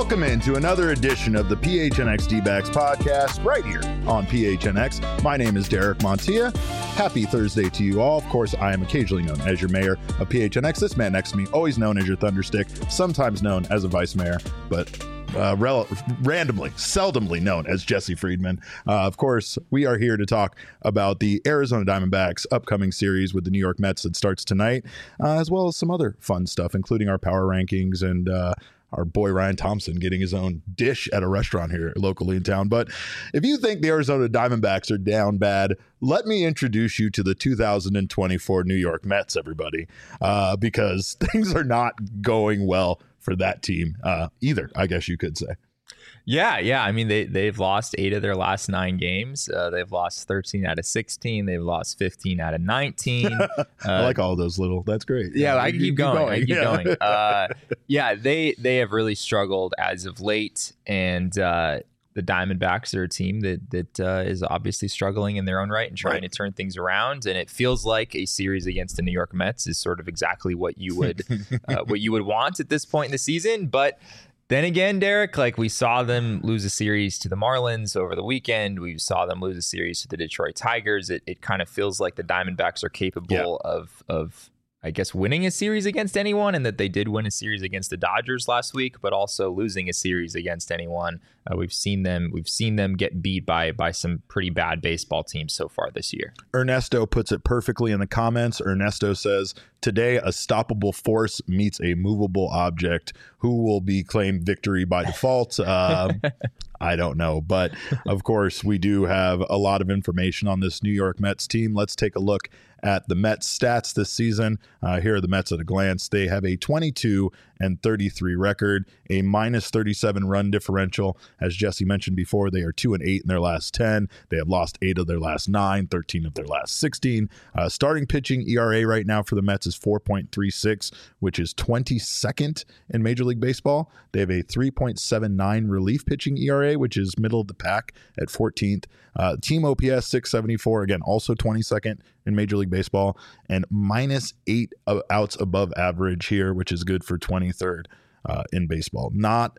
Welcome into another edition of the PHNX D-Backs podcast right here on PHNX. My name is Derek Montilla. Happy Thursday to you all. Of course, I am occasionally known as your mayor of PHNX. This man next to me, always known as your Thunderstick, sometimes known as a vice mayor, but randomly, seldomly known as Jesse Friedman. Of course, we are here to talk about the Arizona Diamondbacks upcoming series with the New York Mets that starts tonight, as well as some other fun stuff, including our power rankings and our boy Ryan Thompson getting his own dish at a restaurant here locally in town. But if you think the Arizona Diamondbacks are down bad, let me introduce you to the 2024 New York Mets, everybody, because things are not going well for that team either, I guess you could say. Yeah. I mean, they've lost 8 of their last 9 games. They've lost 13 out of 16. They've lost 15 out of 19. I like all those little. That's great. Yeah, I can keep going. I keep going. They have really struggled as of late, and the Diamondbacks are a team that is obviously struggling in their own right and trying to turn things around. And it feels like a series against the New York Mets is sort of exactly what you would want at this point in the season, but. Then again, Derek, like we saw them lose a series to the Marlins over the weekend. We saw them lose a series to the Detroit Tigers. It kind of feels like the Diamondbacks are capable of, I guess, winning a series against anyone, and that they did win a series against the Dodgers last week, but also losing a series against anyone. We've seen them get beat by some pretty bad baseball teams so far this year. Ernesto puts it perfectly in the comments. Ernesto says, today a stoppable force meets a movable object. Who will be claimed victory by default? I don't know. But of course, we do have a lot of information on this New York Mets team. Let's take a look at the Mets stats this season. Here are the Mets at a glance. They have a 22-33 record, a minus 37 run differential. As Jesse mentioned before, they are 2-8 in their last 10. They have lost 8 of their last 9, 13 of their last 16. Starting pitching ERA right now for the Mets is 4.36, which is 22nd in Major League Baseball. They have a 3.79 relief pitching ERA, which is middle of the pack at 14th. Team OPS 674, again, also 22nd in Major League Baseball, and minus 8 outs above average here, which is good for 23rd in baseball. Not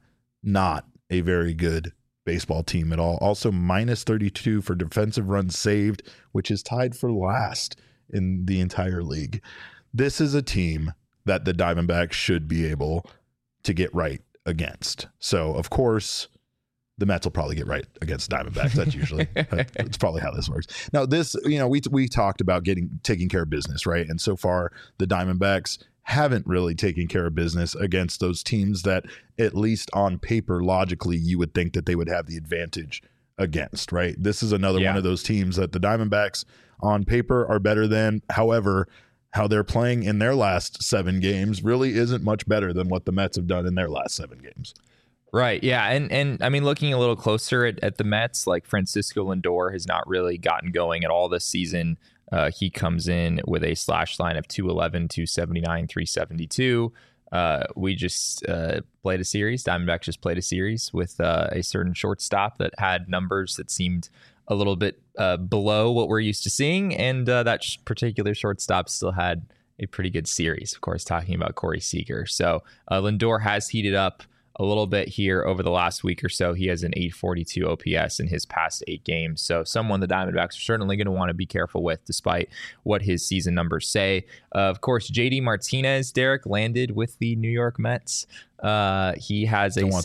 a very good baseball team at all. Also minus 32 for defensive runs saved, which is tied for last in the entire league. This is a team that the Diamondbacks should be able to get right against. So, of course, the Mets will probably get right against Diamondbacks. That's probably how this works. Now, this, we talked about taking care of business, right? And so far, the Diamondbacks haven't really taken care of business against those teams that, at least on paper, logically, you would think that they would have the advantage against, right? This is another one of those teams that the Diamondbacks on paper are better than. However, how they're playing in their last 7 games really isn't much better than what the Mets have done in their last 7 games. Right. Yeah. And I mean, looking a little closer at the Mets, like Francisco Lindor has not really gotten going at all this season. He comes in with a slash line of 211, 279, 372. We just played a series. Diamondbacks just played a series with a certain shortstop that had numbers that seemed a little bit below what we're used to seeing. And that particular shortstop still had a pretty good series, of course, talking about Corey Seager. So Lindor has heated up a little bit here over the last week or so. He has an 842 OPS in his past 8 games. So someone the Diamondbacks are certainly going to want to be careful with, despite what his season numbers say. Of course, JD Martinez, Derek, landed with the New York Mets. He has a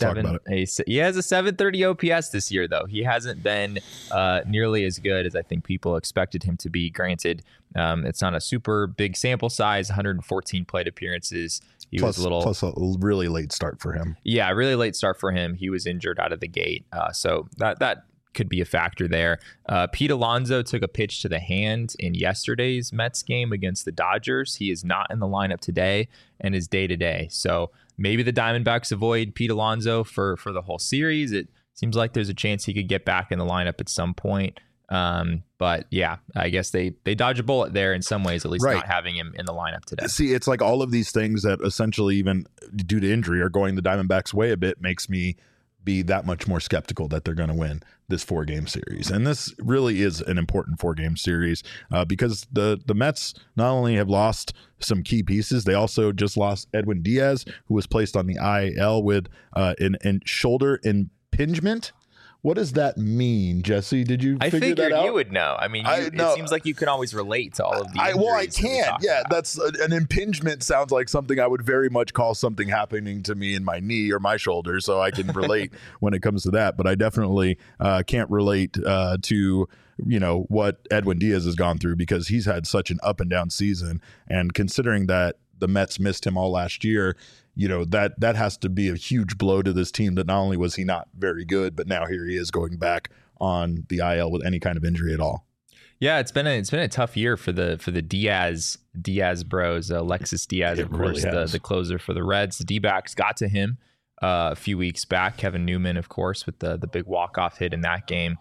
730 OPS this year, though. He hasn't been nearly as good as I think people expected him to be. Granted, it's not a super big sample size, 114 plate appearances. Plus a really late start for him. Yeah, really late start for him. He was injured out of the gate. So that could be a factor there. Pete Alonso took a pitch to the hand in yesterday's Mets game against the Dodgers. He is not in the lineup today and is day-to-day. So maybe the Diamondbacks avoid Pete Alonso for the whole series. It seems like there's a chance he could get back in the lineup at some point. But yeah, I guess they dodge a bullet there in some ways, at least not having him in the lineup today. See, it's like all of these things that essentially, even due to injury, are going the Diamondbacks way a bit, makes me be that much more skeptical that they're going to win this 4-game series. And this really is an important 4-game series because the Mets not only have lost some key pieces, they also just lost Edwin Diaz, who was placed on the IL with an shoulder impingement. What does that mean, Jesse? Did you figure that out? I figured you would know. I mean, it seems like you can always relate to all of the injuries. I can. Yeah, that's an impingement sounds like something I would very much call something happening to me in my knee or my shoulder, so I can relate when it comes to that. But I definitely can't relate to what Edwin Diaz has gone through because he's had such an up and down season. And considering that the Mets missed him all last year, that has to be a huge blow to this team that not only was he not very good, but now here he is going back on the IL with any kind of injury at all. Yeah, it's been a tough year for the Diaz bros. Alexis Diaz, of course, the closer for the Reds. The D-backs got to him a few weeks back. Kevin Newman, of course, with the big walk-off hit in that game.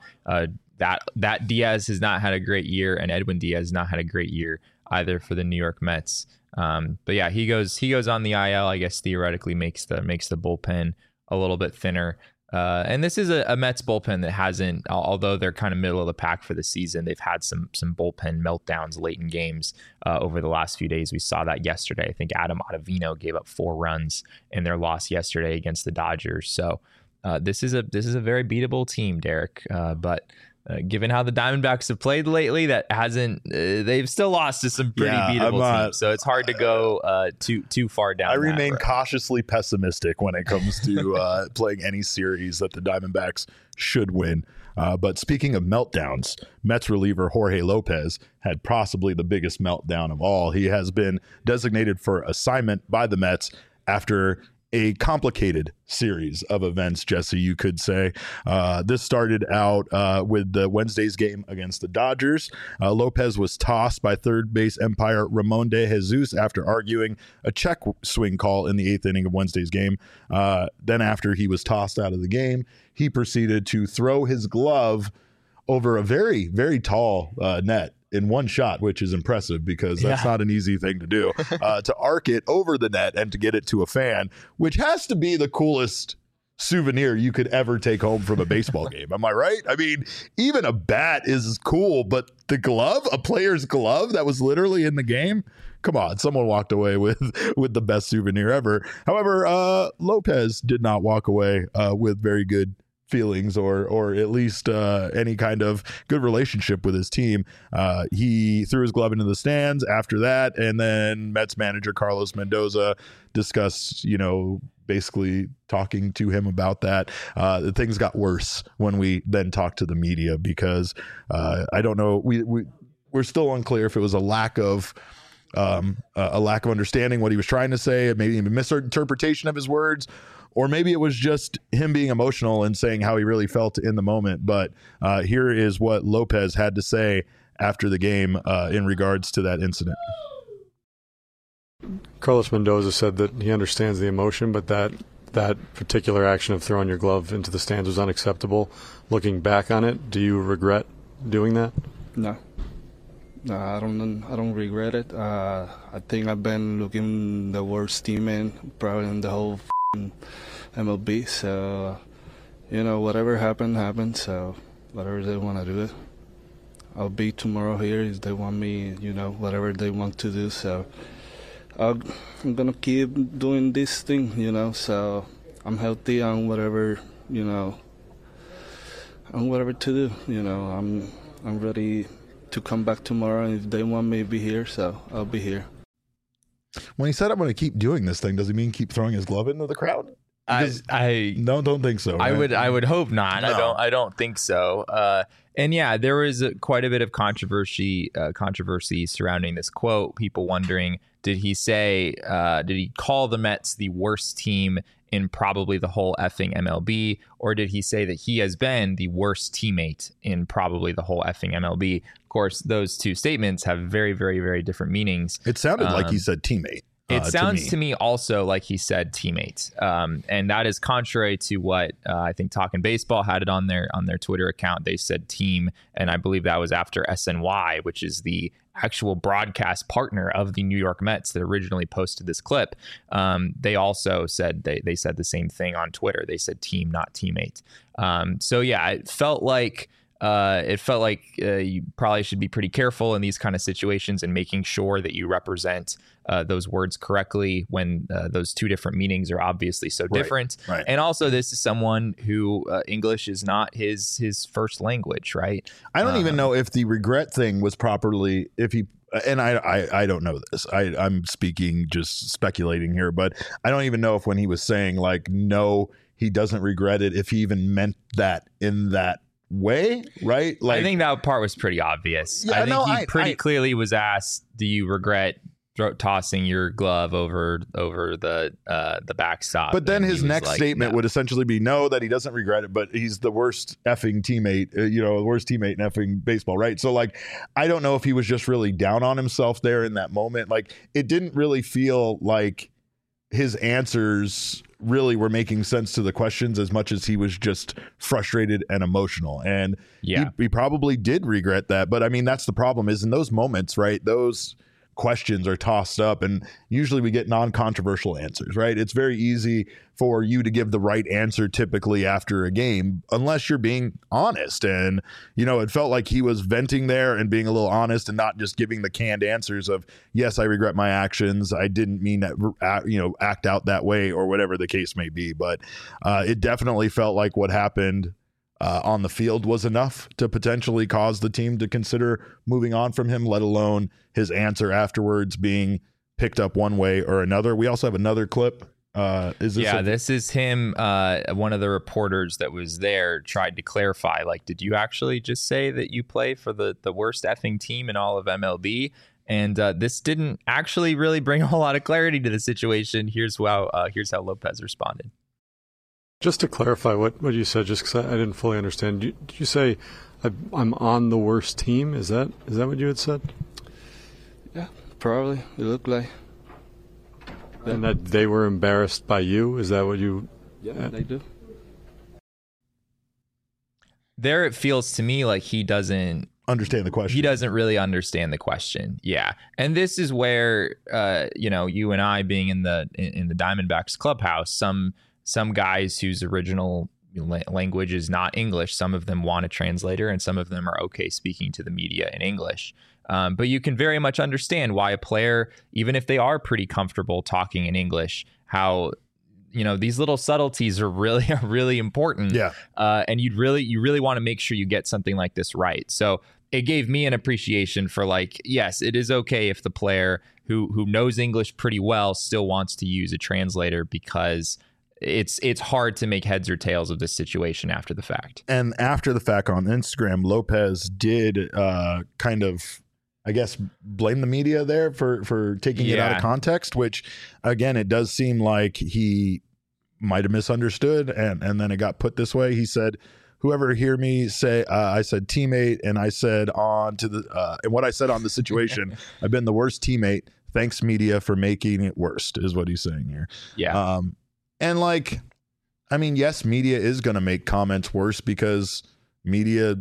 That Diaz has not had a great year, and Edwin Diaz has not had a great year either for the New York Mets. But yeah, he goes on the IL. I guess theoretically makes the bullpen a little bit thinner. And this is a Mets bullpen that hasn't, although they're kind of middle of the pack for the season, they've had some bullpen meltdowns late in games over the last few days. We saw that yesterday. I think Adam Ottavino gave up 4 runs in their loss yesterday against the Dodgers. So this is a very beatable team, Derek. But given how the Diamondbacks have played lately, they've still lost to some pretty beatable teams. So it's hard to go too far down. I remain cautiously pessimistic when it comes to playing any series that the Diamondbacks should win. But speaking of meltdowns, Mets reliever Jorge Lopez had possibly the biggest meltdown of all. He has been designated for assignment by the Mets after a complicated series of events, Jesse, you could say. This started out with the Wednesday's game against the Dodgers. Lopez was tossed by third base umpire Ramon de Jesus after arguing a check swing call in the 8th inning of Wednesday's game. Then after he was tossed out of the game, he proceeded to throw his glove over a very, very tall net in one shot, which is impressive because that's not an easy thing to do, to arc it over the net and to get it to a fan, which has to be the coolest souvenir you could ever take home from a baseball game. Am I right? I mean, even a bat is cool, but the glove, a player's glove that was literally in the game, come on, someone walked away with the best souvenir ever. However, Lopez did not walk away with very good feelings or at least any kind of good relationship with his team. He threw his glove into the stands after that, and then Mets manager Carlos Mendoza discussed, basically talking to him about that. Things got worse when we then talked to the media because I don't know, we're still unclear if it was a lack of understanding what he was trying to say, maybe a misinterpretation of his words, or maybe it was just him being emotional and saying how he really felt in the moment. But here is what Lopez had to say after the game in regards to that incident. Carlos Mendoza said that he understands the emotion, but that particular action of throwing your glove into the stands was unacceptable. Looking back on it, do you regret doing that? No, I don't regret it. I think I've been looking the worst teammate probably in the whole MLB. So, whatever happened. So, whatever they want to do it, I'll be tomorrow here if they want me. Whatever they want to do. So, I'm gonna keep doing this thing. So I'm healthy on whatever on whatever to do. I'm ready to come back tomorrow, and if they want me to be here, so I'll be here. When he said I'm going to keep doing this thing, does he mean keep throwing his glove into the crowd? I don't think so. Right? I would hope not. No. I don't think so. And yeah, there was quite a bit of controversy surrounding this quote. People wondering, did he call the Mets the worst team in probably the whole effing MLB, or did he say that he has been the worst teammate in probably the whole effing MLB? Of course, those two statements have very, very, very different meanings. It sounded like he said teammate. It sounds to me also like he said teammates, and that is contrary to what I think Talkin' Baseball had it on their Twitter account. They said team, and I believe that was after SNY, which is the actual broadcast partner of the New York Mets that originally posted this clip. They also said they said the same thing on Twitter. They said team, not teammate. So yeah, it felt like you probably should be pretty careful in these kind of situations and making sure that you represent those words correctly when those two different meanings are obviously so different. Right. And also, this is someone who English is not his first language, right? I don't even know if the regret thing was properly, if he, and I don't know this. I'm speaking, just speculating here, but I don't even know if when he was saying like, no, he doesn't regret it, if he even meant that in that way, right? Like, I think that part was pretty obvious. Yeah, I think he pretty clearly was asked, do you regret tossing your glove over the backstop? But then his next statement would essentially be no, that he doesn't regret it, but he's the worst effing teammate, the worst teammate in effing baseball, right? So like, I don't know if he was just really down on himself there in that moment. Like, it didn't really feel like his answers really were making sense to the questions as much as he was just frustrated and emotional. And he probably did regret that. But I mean, that's the problem, is in those moments, right? Those questions are tossed up and usually we get non-controversial answers, right? It's very easy for you to give the right answer typically after a game, unless you're being honest. And, it felt like he was venting there and being a little honest and not just giving the canned answers of, yes, I regret my actions, I didn't mean that, act out that way, or whatever the case may be. But it definitely felt like what happened on the field was enough to potentially cause the team to consider moving on from him, let alone his answer afterwards being picked up one way or another. We also have another clip. This is him. One of the reporters that was there tried to clarify, like, did you actually just say that you play for the worst effing team in all of MLB? And this didn't actually really bring a whole lot of clarity to the situation. Here's how Lopez responded. Just to clarify what you said, just because I didn't fully understand, did you say I'm on the worst team? Is that what you had said? Yeah, probably. It looked like. And that they were embarrassed by you? Is that what you... Yeah, they do. There it feels to me like he doesn't understand the question. He doesn't really understand the question. Yeah. And this is where, you and I being in the Diamondbacks clubhouse, some guys whose original language is not English, some of them want a translator and some of them are okay speaking to the media in English. But you can very much understand why a player, even if they are pretty comfortable talking in English, how these little subtleties are really important. Yeah. And you really want to make sure you get something like this right. So it gave me an appreciation for, like, yes, it is okay if the player who knows English pretty well still wants to use a translator, because it's hard to make heads or tails of this situation after the fact. And after the fact on Instagram, Lopez did kind of, I guess, blame the media there for taking it out of context, which, again, it does seem like he might have misunderstood. And then it got put this way. He said, whoever hear me say, I said teammate, and I said and what I said on the situation, I've been the worst teammate. Thanks, media, for making it worst, is what he's saying here. Yeah. And like, I mean, yes, media is going to make comments worse because media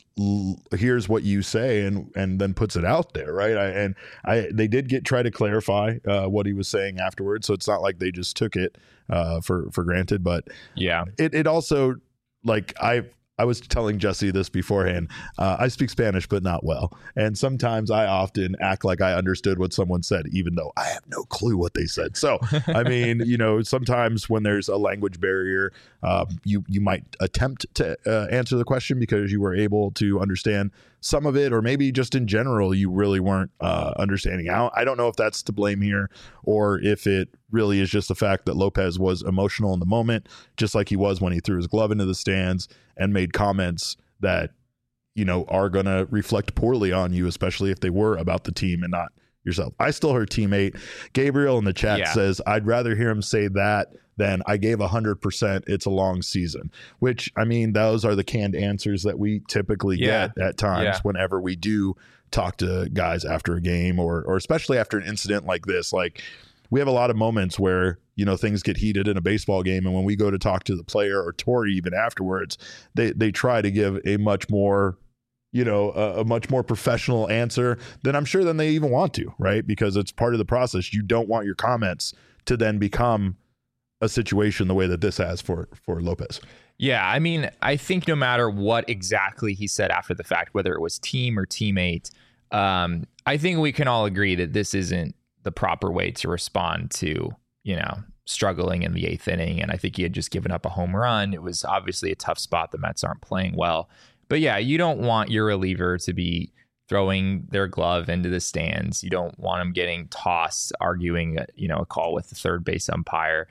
hears what you say and then puts it out there, right? They did try to clarify what he was saying afterwards, so it's not like they just took it for granted. But yeah, it also, like, I was telling Jesse this beforehand. I speak Spanish, but not well. And sometimes I often act like I understood what someone said, even though I have no clue what they said. So, I mean, sometimes when there's a language barrier, you might attempt to answer the question because you were able to understand some of it, or maybe just in general, you really weren't understanding. I don't know if that's to blame here, or if it really is just the fact that Lopez was emotional in the moment, just like he was when he threw his glove into the stands and made comments that, are going to reflect poorly on you, especially if they were about the team and not yourself. I still heard teammate. Gabriel in the chat says, I'd rather hear him say that than I gave 100%. It's a long season, which, I mean, those are the canned answers that we typically get at times whenever we do talk to guys after a game, or especially after an incident like this. Like, we have a lot of moments where, you know, things get heated in a baseball game, and when we go to talk to the player or Torey even afterwards, they try to give a much more, you know, a much more professional answer than I'm sure than they even want to, right? Because it's part of the process. You don't want your comments to then become a situation the way that this has for Lopez. Yeah, I mean, I think no matter what exactly he said after the fact, whether it was team or teammate, I think we can all agree that this isn't the proper way to respond to, you know, struggling in the 8th inning. And I think he had just given up a home run. It was obviously a tough spot. The Mets aren't playing well. But yeah, you don't want your reliever to be throwing their glove into the stands. You don't want them getting tossed, arguing, you know, a call with the third base umpire.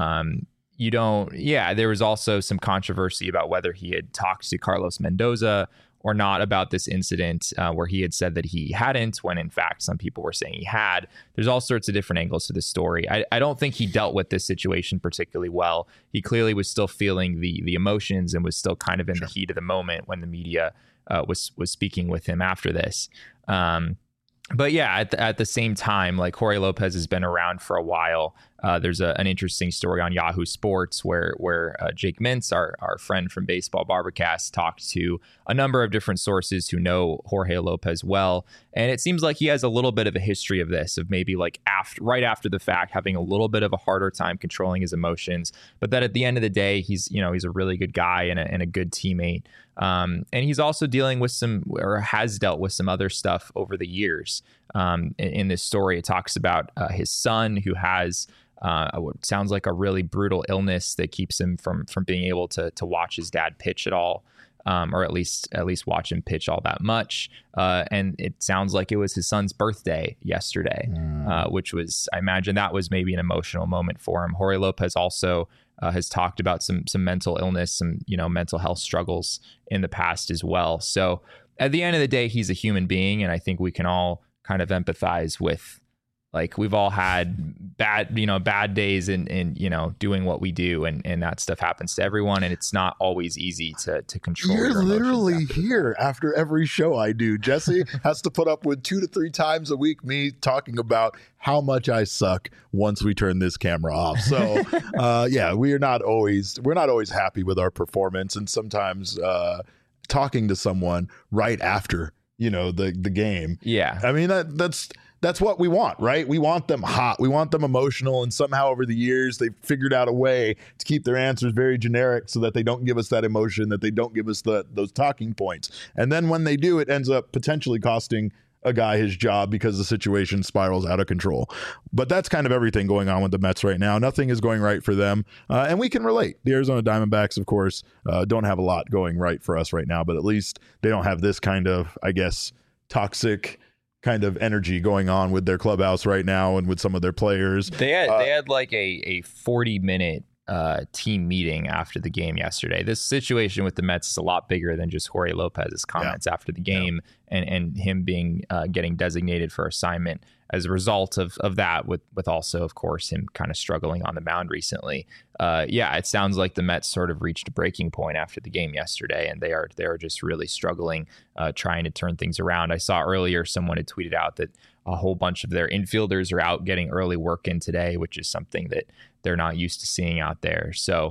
There was also some controversy about whether he had talked to Carlos Mendoza or not about this incident, where he had said that he hadn't, when in fact some people were saying he had. There's all sorts of different angles to this story. I don't think he dealt with this situation particularly well. He clearly was still feeling the emotions and was still kind of in the heat of the moment when the media was speaking with him after this. But yeah, at the same time, like, Jorge Lopez has been around for a while. There's an interesting story on Yahoo Sports where Jake Mintz, our friend from Baseball Barbacast, talked to a number of different sources who know Jorge Lopez well. And it seems like he has a little bit of a history of this, of maybe like right after the fact, having a little bit of a harder time controlling his emotions. But that at the end of the day, he's a really good guy and a good teammate. And he's also dealing with has dealt with some other stuff over the years. In this story, it talks about his son, who has what sounds like a really brutal illness that keeps him from being able to watch his dad pitch at all, or at least watch him pitch all that much. And it sounds like it was his son's birthday yesterday, which was, I imagine that was maybe an emotional moment for him. Jorge Lopez also has talked about some mental illness, some, you know, mental health struggles in the past as well. So at the end of the day, he's a human being, and I think we can all kind of empathize with, like, we've all had bad days in you know, doing what we do, and that stuff happens to everyone, and it's not always easy to control. You're literally here after every show I do. Jesse has to put up with 2 to 3 times a week me talking about how much I suck once we turn this camera off. So yeah, we're not always happy with our performance, and sometimes talking to someone right after, you know, the game. Yeah, I mean, that's what we want, right? We want them hot. We want them emotional. And somehow over the years, they've figured out a way to keep their answers very generic so that they don't give us that emotion, that they don't give us those talking points. And then when they do, it ends up potentially costing a guy his job because the situation spirals out of control. But that's kind of everything going on with the Mets right now. Nothing is going right for them. And we can relate. The Arizona Diamondbacks, of course, don't have a lot going right for us right now, but at least they don't have this kind of, I guess, toxic kind of energy going on with their clubhouse right now and with some of their players. They had like a 40-minute team meeting after the game yesterday. This situation with the Mets is a lot bigger than just Jorge Lopez's comments after the game and him being getting designated for assignment as a result of that, with also, of course, him kind of struggling on the mound recently. It sounds like the Mets sort of reached a breaking point after the game yesterday, and they are just really struggling, trying to turn things around. I saw earlier someone had tweeted out that a whole bunch of their infielders are out getting early work in today, which is something that they're not used to seeing out there. So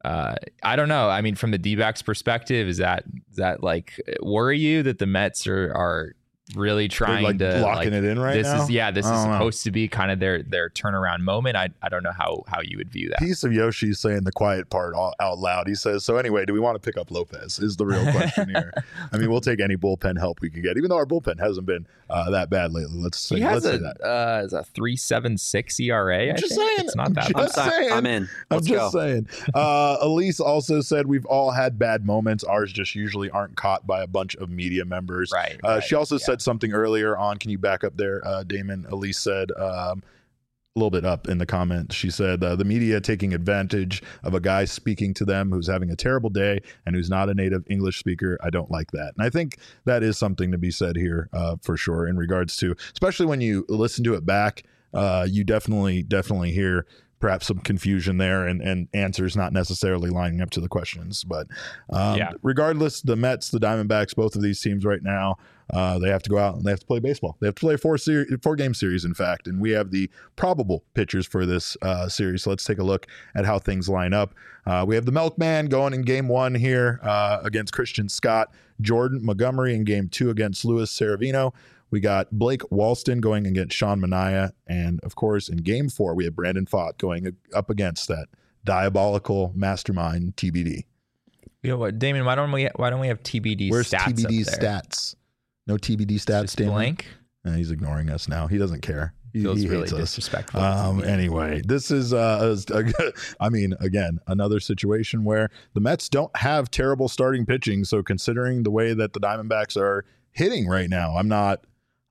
I don't know. I mean, from the D-backs perspective, is that like worry you that the Mets are really trying to locking it in right now? This is supposed to be kind of their turnaround moment. I don't know how you would view that. Piece of Yoshi saying the quiet part out loud. He says, so anyway, do we want to pick up Lopez is the real question here. I mean, we'll take any bullpen help we can get, even though our bullpen hasn't been that bad lately. Let's say that. Is a 3.76 ERA. I'm just saying. It's not that bad. I'm in. Let's go. Saying. Elise also said we've all had bad moments. Ours just usually aren't caught by a bunch of media members. Right. She also said something earlier on. Can you back up there, Damon? Elise said a little bit up in the comments. She said the media taking advantage of a guy speaking to them who's having a terrible day and who's not a native English speaker. I don't like that. And I think that is something to be said here for sure, in regards to, especially when you listen to it back, you definitely hear perhaps some confusion there and answers not necessarily lining up to the questions. But regardless, the Mets, the Diamondbacks, both of these teams right now, they have to go out and they have to play baseball. They have to play a four-game series, in fact. And we have the probable pitchers for this series. So let's take a look at how things line up. We have the Milkman going in game 1 here against Christian Scott, Jordan Montgomery in game 2 against Luis Seravino. We got Blake Walston going against Sean Manaea. And, of course, in game 4, we have Brandon Pfaadt going up against that diabolical mastermind TBD. You know what, Damon, why don't we have TBD Where's stats TBD up there? stats? No TBD stats, Just Damon? blank? He's ignoring us now. He doesn't care. He Feels really hates us. disrespectful. Anyway, this is, I mean, again, another situation where the Mets don't have terrible starting pitching. So considering the way that the Diamondbacks are hitting right now, I'm not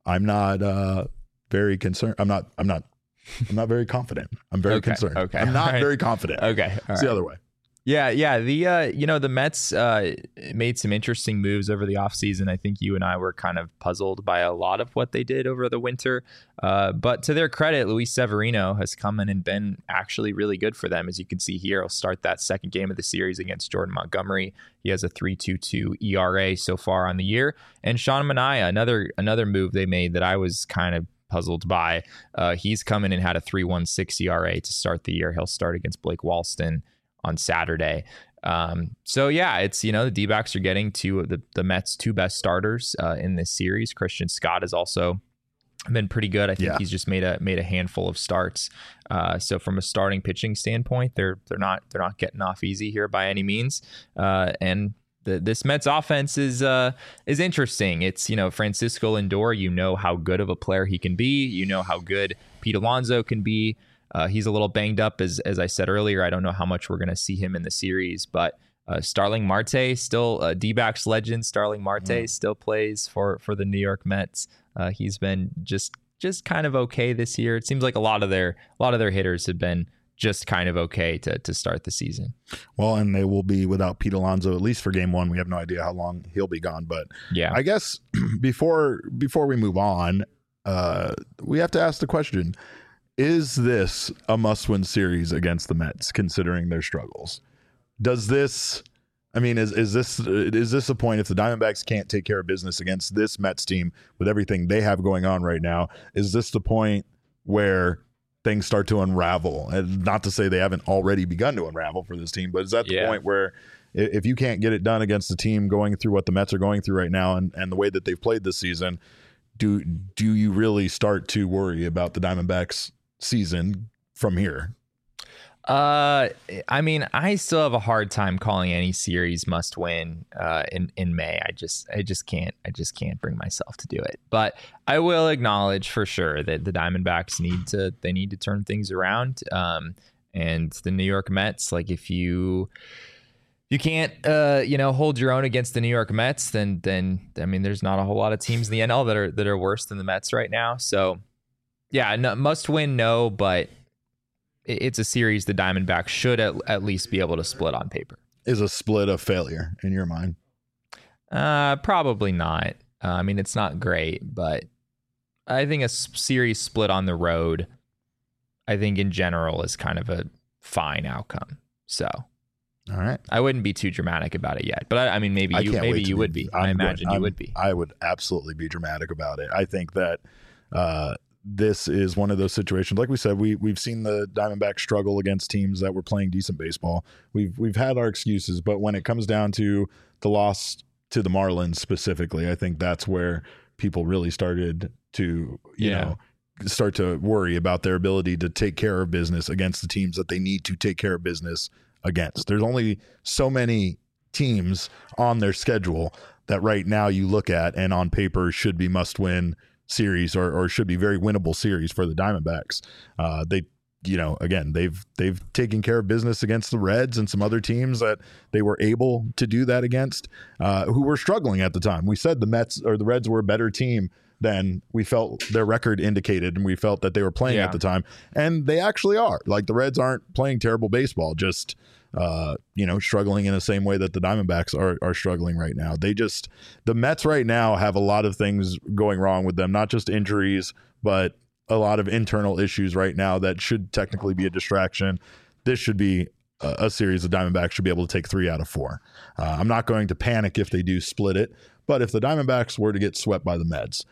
very concerned. I'm not very confident. I'm very concerned. Okay. I'm not very confident. Okay. It's the other way. Yeah. The Mets made some interesting moves over the offseason. I think you and I were kind of puzzled by a lot of what they did over the winter. But to their credit, Luis Severino has come in and been actually really good for them. As you can see here, he'll start that second game of the series against Jordan Montgomery. He has a 3.22 ERA so far on the year. And Sean Manaea, another move they made that I was kind of puzzled by. He's come in and had a 3.16 ERA to start the year. He'll start against Blake Walston on Saturday. So yeah, it's, the D-backs are getting to the Mets' 2 best starters in this series. Christian Scott has also been pretty good. I think he's just made a handful of starts. So from a starting pitching standpoint, they're not getting off easy here by any means. And this Mets offense is interesting. It's, Francisco Lindor, how good of a player he can be. How good Pete Alonso can be. He's a little banged up, as I said earlier. I don't know how much we're going to see him in the series, but Starling Marte, still D-backs legend. Starling Marte still plays for the New York Mets. He's been just kind of okay this year. It seems like a lot of their hitters have been just kind of okay to start the season. Well, and they will be without Pete Alonso at least for game 1. We have no idea how long he'll be gone, but yeah, I guess before we move on, we have to ask the question: is this a must-win series against the Mets, considering their struggles? Does this, is this a point if the Diamondbacks can't take care of business against this Mets team with everything they have going on right now? Is this the point where things start to unravel? And not to say they haven't already begun to unravel for this team, but is that the point where if you can't get it done against the team going through what the Mets are going through right now and the way that they've played this season, do you really start to worry about the Diamondbacks season from here? I still have a hard time calling any series must win in May. I just can't bring myself to do it. But I will acknowledge for sure that the Diamondbacks need to turn things around. And the New York Mets, like if you can't hold your own against the New York Mets, then there's not a whole lot of teams in the NL that are worse than the Mets right now. So yeah, no, must win, no, but it's a series the Diamondbacks should at least be able to split on paper. Is a split a failure in your mind? Probably not. It's not great, but I think a series split on the road, I think in general is kind of a fine outcome. So, all right, I wouldn't be too dramatic about it yet, but maybe you would be. I imagine you would be. I would absolutely be dramatic about it. I think that this is one of those situations. Like we said, we've seen the Diamondbacks struggle against teams that were playing decent baseball. We've had our excuses, but when it comes down to the loss to the Marlins specifically, I think that's where people really started to start to worry about their ability to take care of business against the teams that they need to take care of business against. There's only so many teams on their schedule that right now you look at and on paper should be must-win series or should be very winnable series for the Diamondbacks. They've taken care of business against the Reds and some other teams that they were able to do that against, who were struggling at the time. We said the Mets or the Reds were a better team than we felt their record indicated, and we felt that they were playing at the time, and they actually are. Like, the Reds aren't playing terrible baseball, just struggling in the same way that the Diamondbacks are struggling right now. The Mets right now have a lot of things going wrong with them, not just injuries, but a lot of internal issues right now that should technically be a distraction. This should be a series the Diamondbacks should be able to take 3 out of 4. I'm not going to panic if they do split it, but if the Diamondbacks were to get swept by the Mets,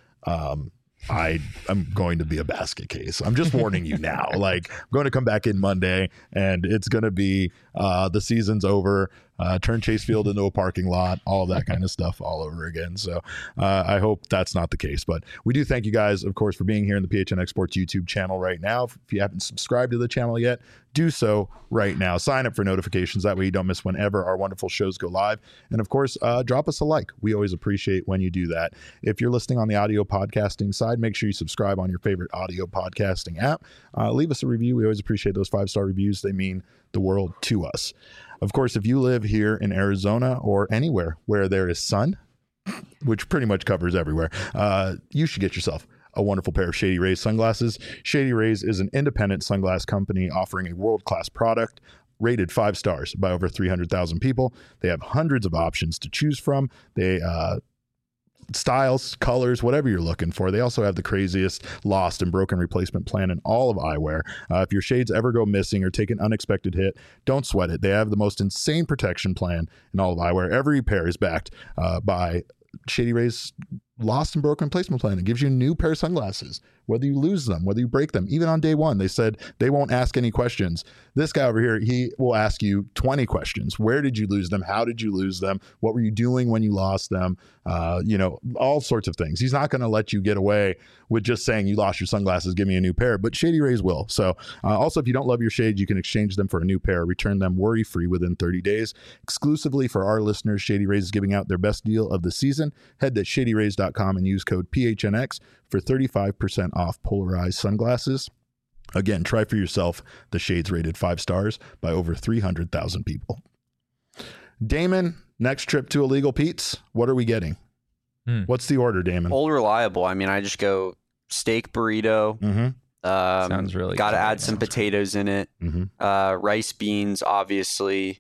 I'm going to be a basket case. I'm just warning you now. Like, I'm going to come back in Monday, and it's going to be the season's over. Turn Chase Field into a parking lot, all of that kind of stuff all over again. So I hope that's not the case. But we do thank you guys, of course, for being here in the PHNX Sports YouTube channel right now. If you haven't subscribed to the channel yet, do so right now. Sign up for notifications. That way you don't miss whenever our wonderful shows go live. And of course, drop us a like. We always appreciate when you do that. If you're listening on the audio podcasting side, make sure you subscribe on your favorite audio podcasting app. Leave us a review. We always appreciate those 5-star reviews. They mean the world to us. Of course, if you live here in Arizona or anywhere where there is sun, which pretty much covers everywhere, you should get yourself a wonderful pair of Shady Rays sunglasses. Shady Rays is an independent sunglass company offering a world-class product rated 5 stars by over 300,000 people. They have hundreds of options to choose from. They styles, colors, whatever you're looking for. They also have the craziest lost and broken replacement plan in all of eyewear. If your shades ever go missing or take an unexpected hit, don't sweat it. They have the most insane protection plan in all of eyewear. Every pair is backed by Shady Rays lost and broken replacement plan. It gives you a new pair of sunglasses, whether you lose them, whether you break them. Even on day one, they said they won't ask any questions. This guy over here, he will ask you 20 questions. Where did you lose them? How did you lose them? What were you doing when you lost them? All sorts of things. He's not going to let you get away with just saying you lost your sunglasses, give me a new pair, but Shady Rays will. So also, if you don't love your shades, you can exchange them for a new pair, return them worry-free within 30 days. Exclusively for our listeners, Shady Rays is giving out their best deal of the season. Head to shadyrays.com and use code PHNX for 35% off polarized sunglasses. Again, try for yourself the shades rated 5 stars by over 300,000 people. Damon, next trip to Illegal Pete's, what are we getting? What's the order, Damon? Old Reliable. I mean, I just go steak burrito. Sounds really got to good. add some potatoes in it. Rice, beans, obviously.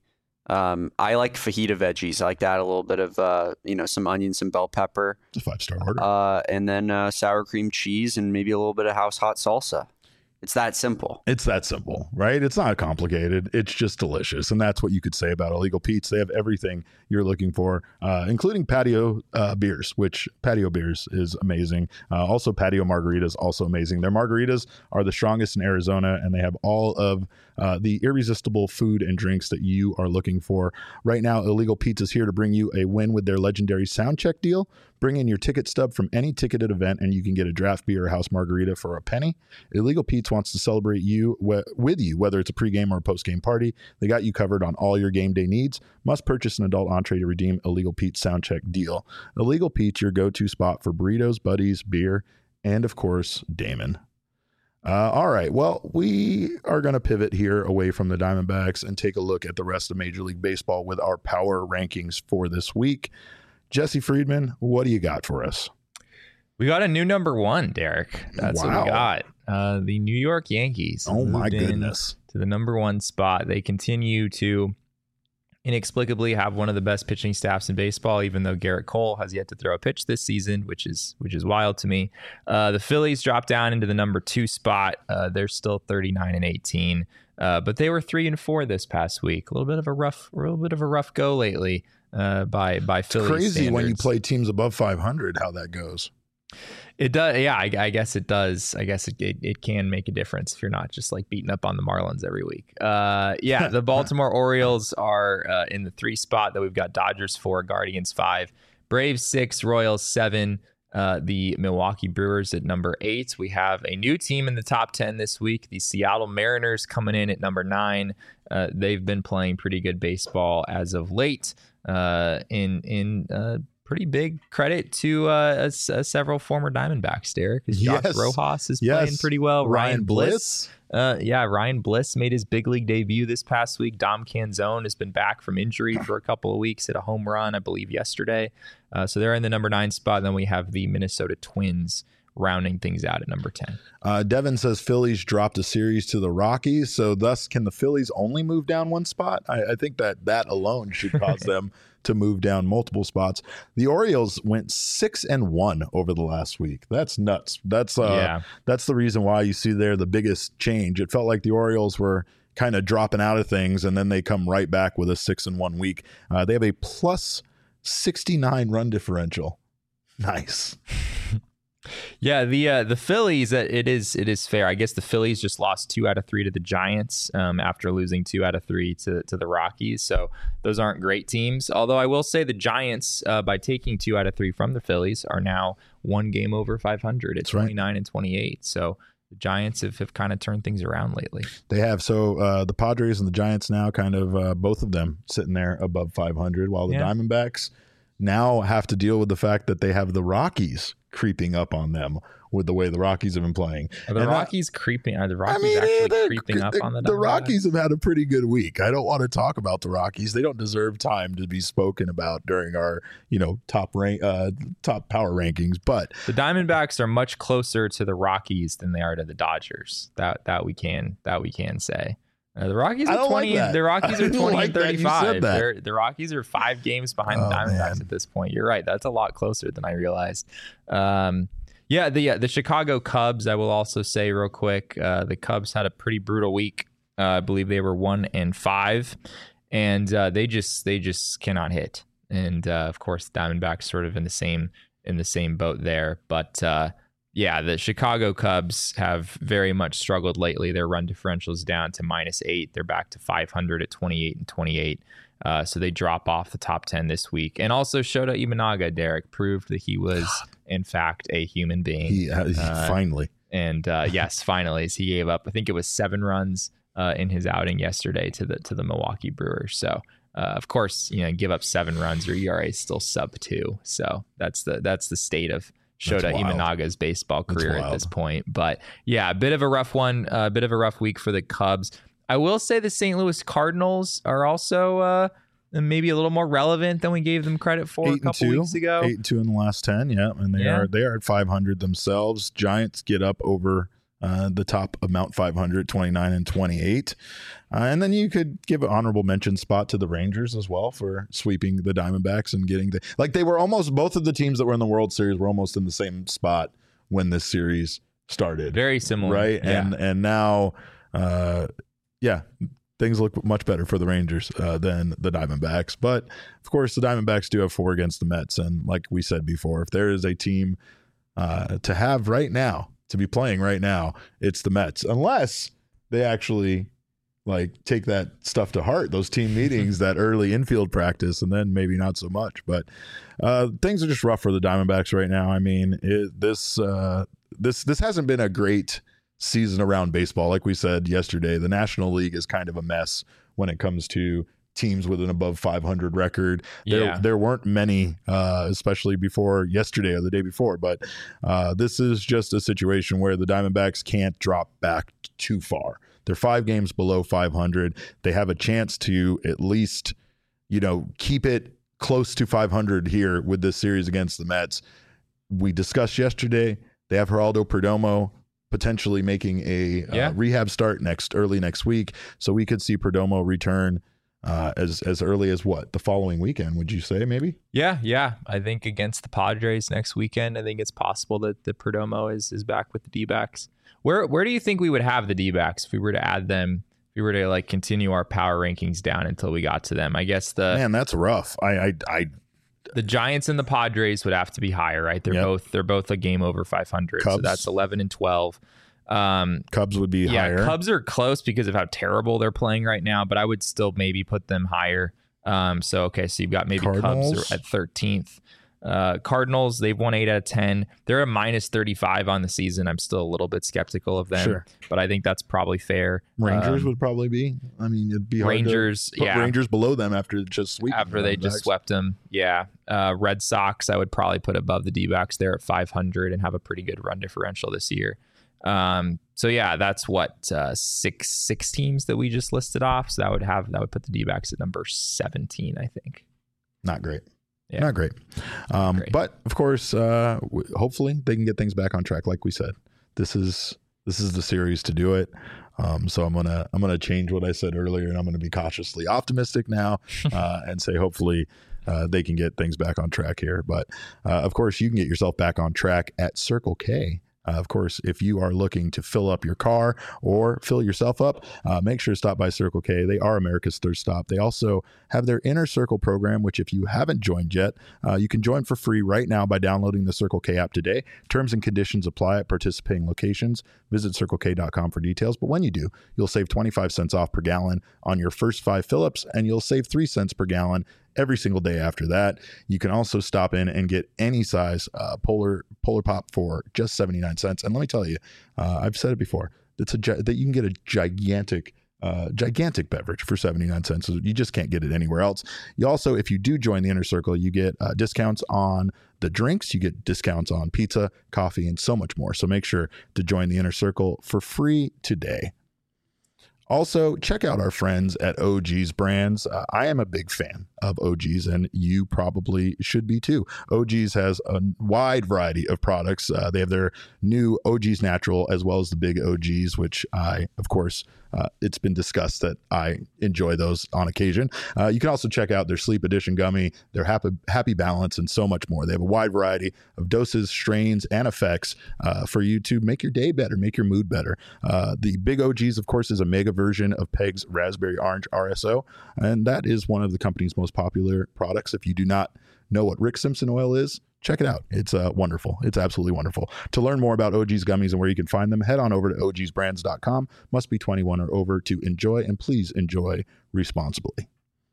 I like fajita veggies. I like to add a little bit of, some onion, some bell pepper. It's a 5-star order. And then sour cream cheese and maybe a little bit of house hot salsa. It's that simple. It's that simple, right? It's not complicated. It's just delicious. And that's what you could say about Illegal Pete's. They have everything you're looking for, including patio beers, which patio beers is amazing. Also, patio margaritas, also amazing. Their margaritas are the strongest in Arizona, and they have all of the irresistible food and drinks that you are looking for. Right now, Illegal Pete's is here to bring you a win with their legendary sound check deal. Bring in your ticket stub from any ticketed event, and you can get a draft beer or house margarita for a penny. Illegal Pete's wants to celebrate you with you, whether it's a pregame or a postgame party. They got you covered on all your game day needs. Must purchase an adult entree to redeem Illegal Pete's sound check deal. Illegal Pete's, your go-to spot for burritos, buddies, beer, and of course, Damon. All right. Well, we are going to pivot here away from the Diamondbacks and take a look at the rest of Major League Baseball with our power rankings for this week. Jesse Friedman, what do you got for us? We got a new number 1, Derek. That's what we got. The New York Yankees. Oh, my goodness. To the number 1 spot. They continue to inexplicably have one of the best pitching staffs in baseball, even though Garrett Cole has yet to throw a pitch this season, which is wild to me. The Phillies dropped down into the number 2 spot. They're still 39-18, but they were 3-4 this past week. A little bit of a rough go lately by Phillies. It's crazy standards. when you play teams above 500 how that goes. It does. Yeah, I guess it does. I guess it can make a difference if you're not just like beating up on the Marlins every week. The Baltimore Orioles are in the 3 spot. That we've got Dodgers 4, Guardians 5, Braves 6, Royals 7. The Milwaukee Brewers at number 8. We have a new team in the top 10 this week. The Seattle Mariners coming in at number 9. They've been playing pretty good baseball as of late. Pretty big credit to several former Diamondbacks, Derek. Josh Rojas is playing pretty well. Ryan Bliss. Ryan Bliss made his big league debut this past week. Dom Canzone has been back from injury for a couple of weeks, hit a home run, I believe, yesterday. So they're in the number 9 spot. Then we have the Minnesota Twins rounding things out at number 10. Devin says Phillies dropped a series to the Rockies, so thus can the Phillies only move down 1 spot? I think that alone should cause them to move down multiple spots. The Orioles went 6-1 over the last week. That's nuts. That's the reason why you see there the biggest change. It felt like the Orioles were kind of dropping out of things, and then they come right back with a 6-1 week. They have a plus 69 run differential. Nice. Yeah, the Phillies, it is fair. I guess the Phillies just lost 2 out of 3 to the Giants after losing 2 out of 3 to the Rockies. So those aren't great teams. Although I will say the Giants, by taking 2 out of 3 from the Phillies, are now 1 game over 500 at 29 and 28. So the Giants have kind of turned things around lately. They have. So the Padres and the Giants now kind of both of them sitting there above 500, while the Diamondbacks now have to deal with the fact that they have the Rockies creeping up on them with the way the Rockies have been playing. Are the Rockies creeping on the Diamondbacks? The Rockies have had a pretty good week. I don't want to talk about the Rockies. They don't deserve time to be spoken about during our, top power rankings, but the Diamondbacks are much closer to the Rockies than they are to the Dodgers. That we can say. The Rockies are 20. The Rockies are 20 and 35. The Rockies are 5 games behind the Diamondbacks at this point. You're right. That's a lot closer than I realized. The Chicago Cubs, I will also say real quick, the Cubs had a pretty brutal week. I believe they were 1-5, and they just cannot hit. And of course, the Diamondbacks sort of in the same boat there. But the Chicago Cubs have very much struggled lately. Their run differential is down to -8. They're back to 500 at 28 and 28. So they drop off the top 10 this week. And also Shota Imanaga, Derek, proved that he was, in fact, a human being. He finally. And yes, finally, as he gave up, I think it was 7 runs in his outing yesterday to the Milwaukee Brewers. So, of course, give up 7 runs, your ERA is still sub 2. So that's the state of Shota Imanaga's baseball career at this point. But yeah, a bit of a rough one, a bit of a rough week for the Cubs. I will say the St. Louis Cardinals are also maybe a little more relevant than we gave them credit for a couple weeks ago. 8-2 in the last 10, and they are at 500 themselves. Giants get up over the top of Mount 500, 29 and 28. And then you could give an honorable mention spot to the Rangers as well for sweeping the Diamondbacks and getting they were almost, both of the teams that were in the World Series were almost in the same spot when this series started. Very similar. Right. Yeah. And now, things look much better for the Rangers than the Diamondbacks. But of course, the Diamondbacks do have 4 against the Mets. And like we said before, if there is a team to have right now, to be playing right now, it's the Mets, unless they actually take that stuff to heart, those team meetings, that early infield practice, and then maybe not so much. But things are just rough for the Diamondbacks right now. I mean, this hasn't been a great season around baseball. Like we said yesterday, the National League is kind of a mess when it comes to teams with an above 500 record. There weren't many, especially before yesterday or the day before, but this is just a situation where the Diamondbacks can't drop back too far. They're 5 games below 500. They have a chance to at least, keep it close to 500 here with this series against the Mets. We discussed yesterday, they have Geraldo Perdomo potentially making a rehab start early next week. So we could see Perdomo return as early as the following weekend, would you say, maybe? Yeah. I think against the Padres next weekend, I think it's possible that the Perdomo is back with the D-backs. Where do you think we would have the D-backs if we were to add them, if we were to continue our power rankings down until we got to them? I guess that's rough. The Giants and the Padres would have to be higher, right? They're both a game over 500. Cubs. So that's 11 and 12. Cubs would be higher. Cubs are close because of how terrible they're playing right now, but I would still maybe put them higher. So you've got maybe Cardinals. Cubs are at 13th. Cardinals, they've won 8 out of 10. They're a -35 on the season. I'm still a little bit skeptical of them, but I think that's probably fair. Rangers would probably be. I mean, it'd be hard Rangers, to put Rangers below them after just sweeping. After they just swept them, Red Sox, I would probably put above the D-backs. They're at 500 and have a pretty good run differential this year. That's what 6 teams that we just listed off. So that would put the D-backs at number 17, I think. Not great. Yeah. Not great. But of course, hopefully they can get things back on track. Like we said, this is the series to do it. So I'm gonna change what I said earlier, and I'm gonna be cautiously optimistic now and say hopefully they can get things back on track here. But of course, you can get yourself back on track at Circle K. Of course, if you are looking to fill up your car or fill yourself up, make sure to stop by Circle K. They are America's thirst stop. They also have their Inner Circle program, which if you haven't joined yet, you can join for free right now by downloading the Circle K app today. Terms and conditions apply at participating locations. Visit CircleK.com for details. But when you do, you'll save 25 cents off per gallon on your first 5 fill-ups, and you'll save 3 cents per gallon every single day after that. You can also stop in and get any size Polar Pop for just 79 cents. And let me tell you, I've said it before, that you can get a gigantic beverage for 79 cents. So you just can't get it anywhere else. You also, if you do join the Inner Circle, you get discounts on the drinks, you get discounts on pizza, coffee, and so much more. So make sure to join the Inner Circle for free today. Also, check out our friends at OG's Brands. I am a big fan of OG's, and you probably should be too. OG's has a wide variety of products. They have their new OG's Natural as well as the big OG's, which I, of course, it's been discussed that I enjoy those on occasion. You can also check out their Sleep Edition gummy, their Happy Balance, and so much more. They have a wide variety of doses, strains, and effects for you to make your day better, make your mood better. The big OG's, of course, is a mega version of Peg's Raspberry Orange RSO, and that is one of the company's most popular products. If you do not know what Rick Simpson oil is, check it out. It's wonderful. It's absolutely wonderful. To learn more about OG's gummies and where you can find them, head on over to ogsbrands.com. Must be 21 or over to enjoy, and please enjoy responsibly.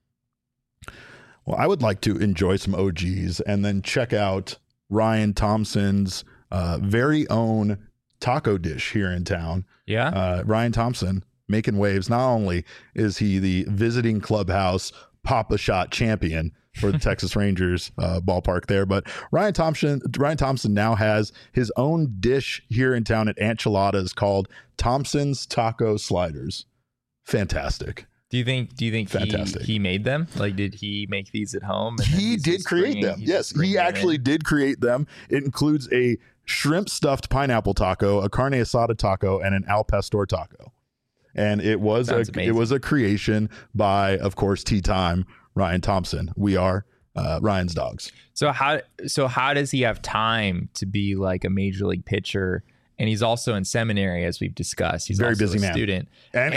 Well, I would like to enjoy some OG's and then check out Ryan Thompson's very own taco dish here in town. Yeah. Ryan Thompson making waves. Not only is he the visiting clubhouse Pop-A-Shot champion for the Texas Rangers ballpark there, but Ryan Thompson now has his own dish here in town at Enchiladas called Thompson's Taco Sliders. Fantastic. Do you think he made them? Like, did he make these at home? And he did create them. Yes, he actually did create them. It includes a shrimp stuffed pineapple taco, a carne asada taco, and an al pastor taco. And it was a creation by, of course, Tea Time Ryan Thompson. We are Ryan's dogs. So how does he have time to be like a major league pitcher? And he's also in seminary, as we've discussed. He's very also busy man. Student,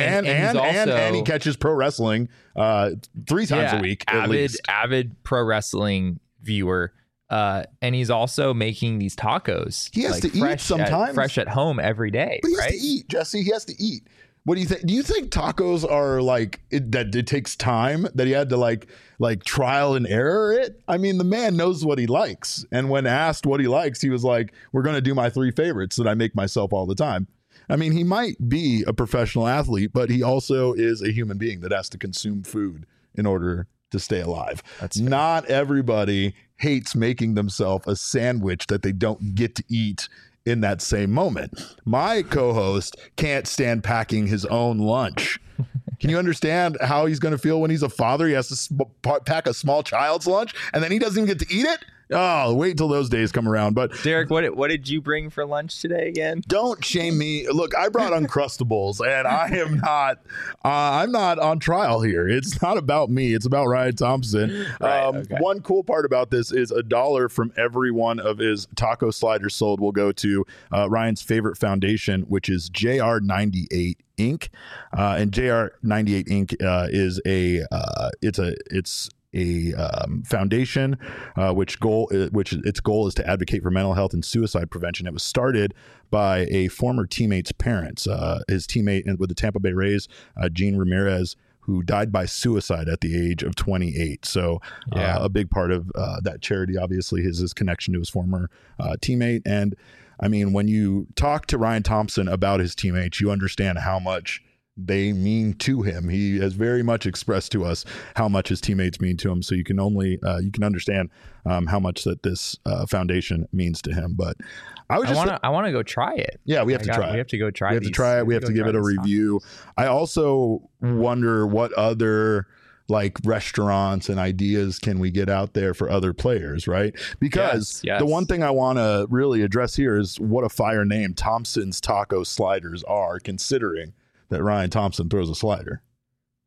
and he catches pro wrestling 3 times a week. Avid pro wrestling viewer. And he's also making these tacos. He has to eat sometimes. Fresh at home every day. But he has to eat, Jesse. He has to eat. What do you think? Do you think tacos are that it takes time, that he had to like trial and error it? I mean, the man knows what he likes. And when asked what he likes, he was like, we're going to do my 3 favorites that I make myself all the time. I mean, he might be a professional athlete, but he also is a human being that has to consume food in order to stay alive. That's fair. Not everybody hates making themselves a sandwich that they don't get to eat in that same moment. My co-host can't stand packing his own lunch. Can you understand how he's going to feel when he's a father? He has to pack a small child's lunch and then he doesn't even get to eat it? Oh, wait till those days come around. But Derek, what did you bring for lunch today again? Don't shame me. Look, I brought Uncrustables, and I am not. I'm not on trial here. It's not about me. It's about Ryan Thompson. Right, okay. One cool part about this is $1 from every one of his taco sliders sold will go to Ryan's favorite foundation, which is JR98 Inc. And JR98 Inc. is a foundation which its goal is to advocate for mental health and suicide prevention. It was started by a former teammate's parents, his teammate with the Tampa Bay Rays, Gene Ramirez, who died by suicide at the age of 28. So a big part of that charity obviously is his connection to his former teammate. And I mean, when you talk to Ryan Thompson about his teammates, you understand how much they mean to him. He has very much expressed to us how much his teammates mean to him. So you can understand how much that this foundation means to him. But I want to go try it. Yeah, we have to try it. We have to go try it. We have to try it. We have to give it a review. I also wonder what other like restaurants and ideas can we get out there for other players, right? Because the one thing I want to really address here is what a fire name Thompson's Taco Sliders are, considering that Ryan Thompson throws a slider.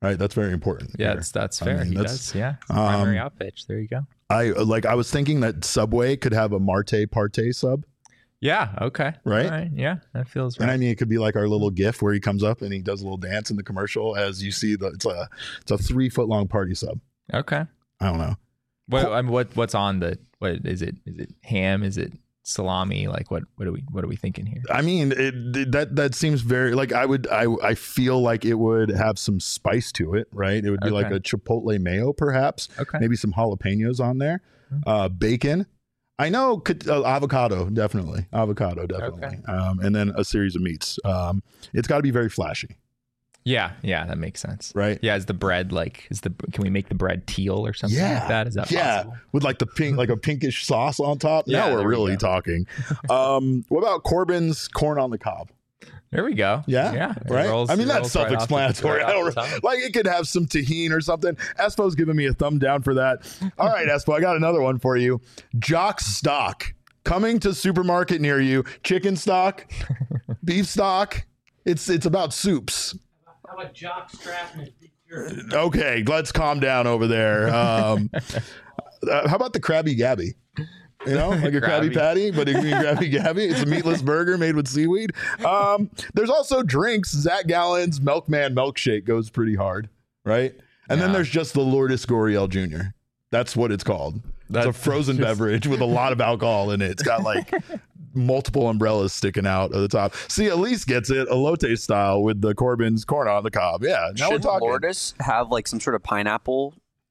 right? That's very important. Yeah, here. that's fair. mean, He does. Yeah. Primary out pitch. There you go. I was thinking that Subway could have a Marte Parte sub. Yeah. Okay. Right? All right. Yeah. That feels right. And I mean, it could be like our little GIF where he comes up and he does a little dance in the commercial as you see it's a 3-foot long party sub. Okay. I don't know. What's on the, what is it? Is it ham? Is it salami? Like what are we thinking here? I mean, that seems very like I feel like it would have some spice to it, right? It would be like a chipotle mayo, perhaps. Okay. Maybe some jalapenos on there. Bacon. I know avocado, definitely. Okay. And then a series of meats. It's got to be very flashy. Yeah, that makes sense. Right? Yeah, is the bread can we make the bread teal or something like that? Is that possible? With like the pink, like a pinkish sauce on top. Yeah, now we're really talking. What about Corbin's corn on the cob? There we go. Yeah. Right. I mean, that's self-explanatory. I don't know. Like it could have some tahini or something. Espo's giving me a thumb down for that. All right, Espo, I got another one for you. Jock stock coming to supermarket near you. Chicken stock, beef stock. It's about soups. How about Jock strap and his big shirt? Okay, let's calm down over there. How about the Krabby Gabby? You know, like a Krabby Patty, but it can be Krabby Gabby. It's a meatless burger made with seaweed. There's also drinks. Zach Gallen's Milkman milkshake goes pretty hard, right? And then there's just the Lourdes Goriel Jr. That's what it's called. It's a frozen beverage with a lot of alcohol in it. It's got like multiple umbrellas sticking out of the top. See, Elise gets it, elote style with the Corbin's corn on the cob. Yeah, now we're talking. Lourdes have like some sort of pineapple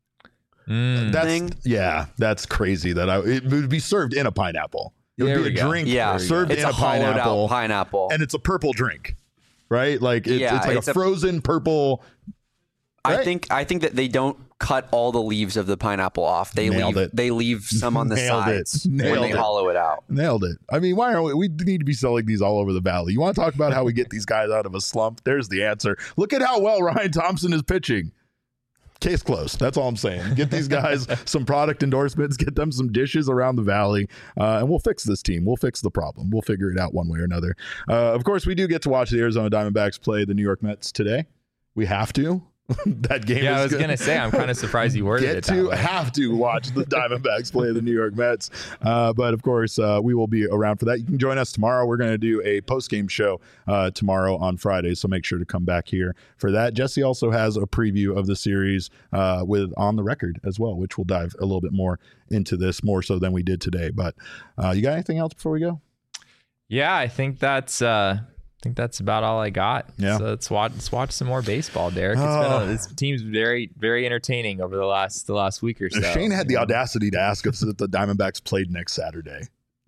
thing? That's crazy. It would be served in a pineapple. It would be a drink served in a pineapple. Pineapple, and it's a purple drink, right? Like it's like a frozen purple. Right? I think that they don't cut all the leaves of the pineapple off. They leave some on the sides when they hollow it out. Nailed it. I mean, why aren't we need to be selling these all over the valley? You want to talk about how we get these guys out of a slump? There's the answer. Look at how well Ryan Thompson is pitching. Case closed. That's all I'm saying. Get these guys some product endorsements, get them some dishes around the valley, and we'll fix this team. We'll fix the problem. We'll figure it out one way or another. Of course, we do get to watch the Arizona Diamondbacks play the New York Mets today. We have to. That game. Yeah, I was gonna say I'm kind of surprised you worded it that way. Have to watch the Diamondbacks play the New York Mets, but of course we will be around for that. You can join us tomorrow. We're going to do a post-game show tomorrow on Friday, so make sure to come back here for that. Jesse also has a preview of the series with On the Record as well, which we'll dive a little bit more into this, more so than we did today. But you got anything else before we go? Yeah, I think that's about all I got. Yeah. So let's watch some more baseball, Derek. This team's very, very entertaining over the last week or so. Shane had the audacity to ask us if the Diamondbacks played next Saturday.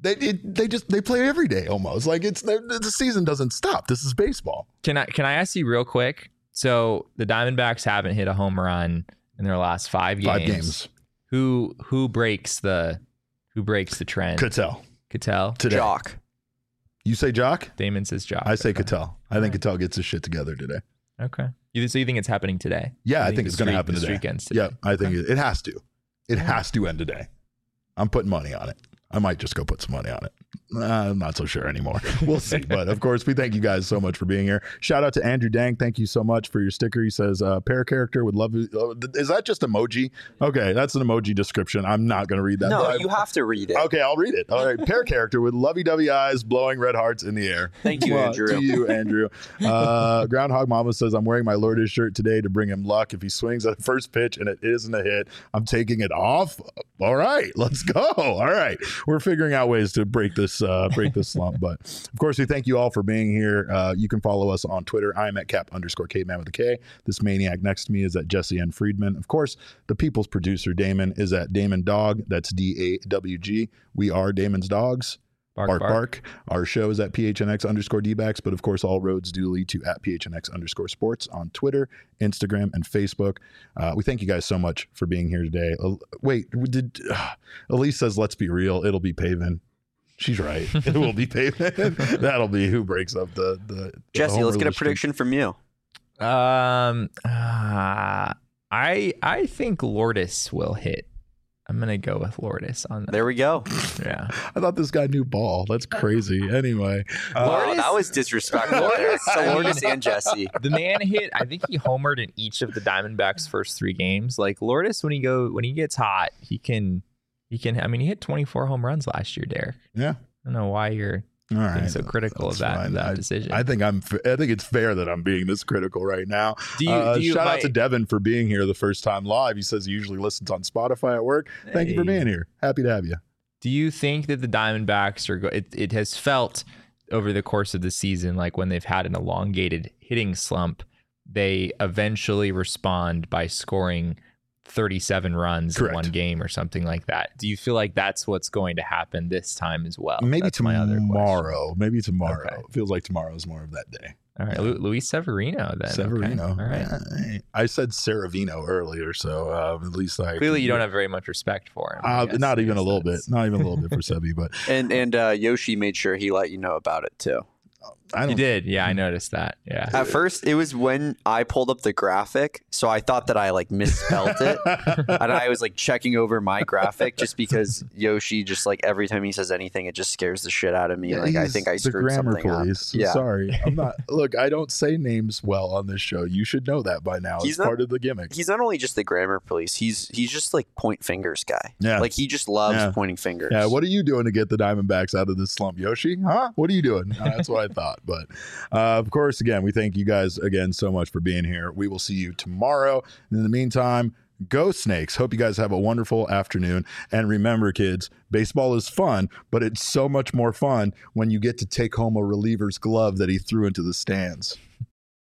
They play every day almost. Like the season doesn't stop. This is baseball. Can I ask you real quick? So the Diamondbacks haven't hit a home run in their last 5 games. 5 games. Who breaks the trend? Ketel today. Jock. You say Jock? Damon says Jock. I say Ketel. I think Ketel gets his shit together today. Okay. So you think it's happening today? Yeah, I think it's going to happen today. Yeah, I think it has to. It has to end today. I'm putting money on it. I might just go put some money on it. I'm not so sure anymore. We'll see. But of course, we thank you guys so much for being here. Shout out to Andrew Dang. Thank you so much for your sticker. He says, pair character would love you. Is that just emoji? Okay, that's an emoji description. I'm not going to read that. No, you have to read it. Okay, I'll read it. All right. Pair character with lovey-dovey eyes, blowing red hearts in the air. Thank you, Andrew. To you, Andrew. Groundhog Mama says, I'm wearing my Lourdes shirt today to bring him luck. If he swings at the first pitch and it isn't a hit, I'm taking it off. All right, let's go. All right. We're figuring out ways to break this slump. But of course, we thank you all for being here. You can follow us on Twitter. I am at Cap_Caveman with a K. This maniac next to me is at Jesse N. Friedman. Of course, the people's producer, Damon, is at Damon Dog. That's DAWG. We are Damon's Dogs. Bark. Our show is at PHNX_DBacks, but of course, all roads do lead to at PHNX_sports on Twitter, Instagram, and Facebook. We thank you guys so much for being here today. Elise says, let's be real, it'll be Pavin. She's right. It will be Pavin. That'll be who breaks up the Jesse, let's get a prediction from you. I think Lourdes will hit I'm gonna go with Lourdes on that. There we go. Yeah. I thought this guy knew ball. That's crazy. Anyway, Wow, that was disrespectful there. So Lourdes and Jesse. The man hit. I think he homered in each of the Diamondbacks' first 3 games. Like Lourdes, when he gets hot, he can. I mean, he hit 24 home runs last year, Derek. yeah. I don't know why you're All right. being so critical of That's fine. that decision. I think it's fair that I'm being this critical right now. Do you shout out to Devin for being here the first time live. He says he usually listens on Spotify at work. Thank you for being here. Happy to have you. Do you think that the Diamondbacks are it has felt over the course of the season like when they've had an elongated hitting slump, they eventually respond by scoring 37 runs Correct. in one game or something like that? Do you feel like that's what's going to happen this time as well? Maybe That's my other question. tomorrow. Maybe tomorrow. Okay. It feels like tomorrow is more of that day. All right, Luis Severino then. Severino. Okay. All right. Yeah, I said Saravino earlier, so at least I Clearly, you don't have very much respect for him. I guess. not I even a guess little bit. that's- Not even a little bit for Sebi, but And Yoshi made sure he let you know about it too. I You don't. did, yeah. I noticed that. Yeah. At first, it was when I pulled up the graphic, so I thought that I like misspelled it, and I was like checking over my graphic just because Yoshi just like every time he says anything, it just scares the shit out of me. Yeah, Like I he's think I the screwed grammar something police. up. Yeah, Sorry, I'm not. Look, I don't say names well on this show. You should know that by now. He's It's not- part of the gimmick. he's not only just the grammar police. He's just like point fingers guy. Yeah. like he just loves Yeah. pointing fingers. Yeah, what are you doing to get the Diamondbacks out of this slump, Yoshi? Huh? What are you doing? That's what I thought. But of course, again, we thank you guys again so much for being here. We will see you tomorrow. And in the meantime, go Snakes. Hope you guys have a wonderful afternoon. And remember, kids, baseball is fun, but it's so much more fun when you get to take home a reliever's glove that he threw into the stands.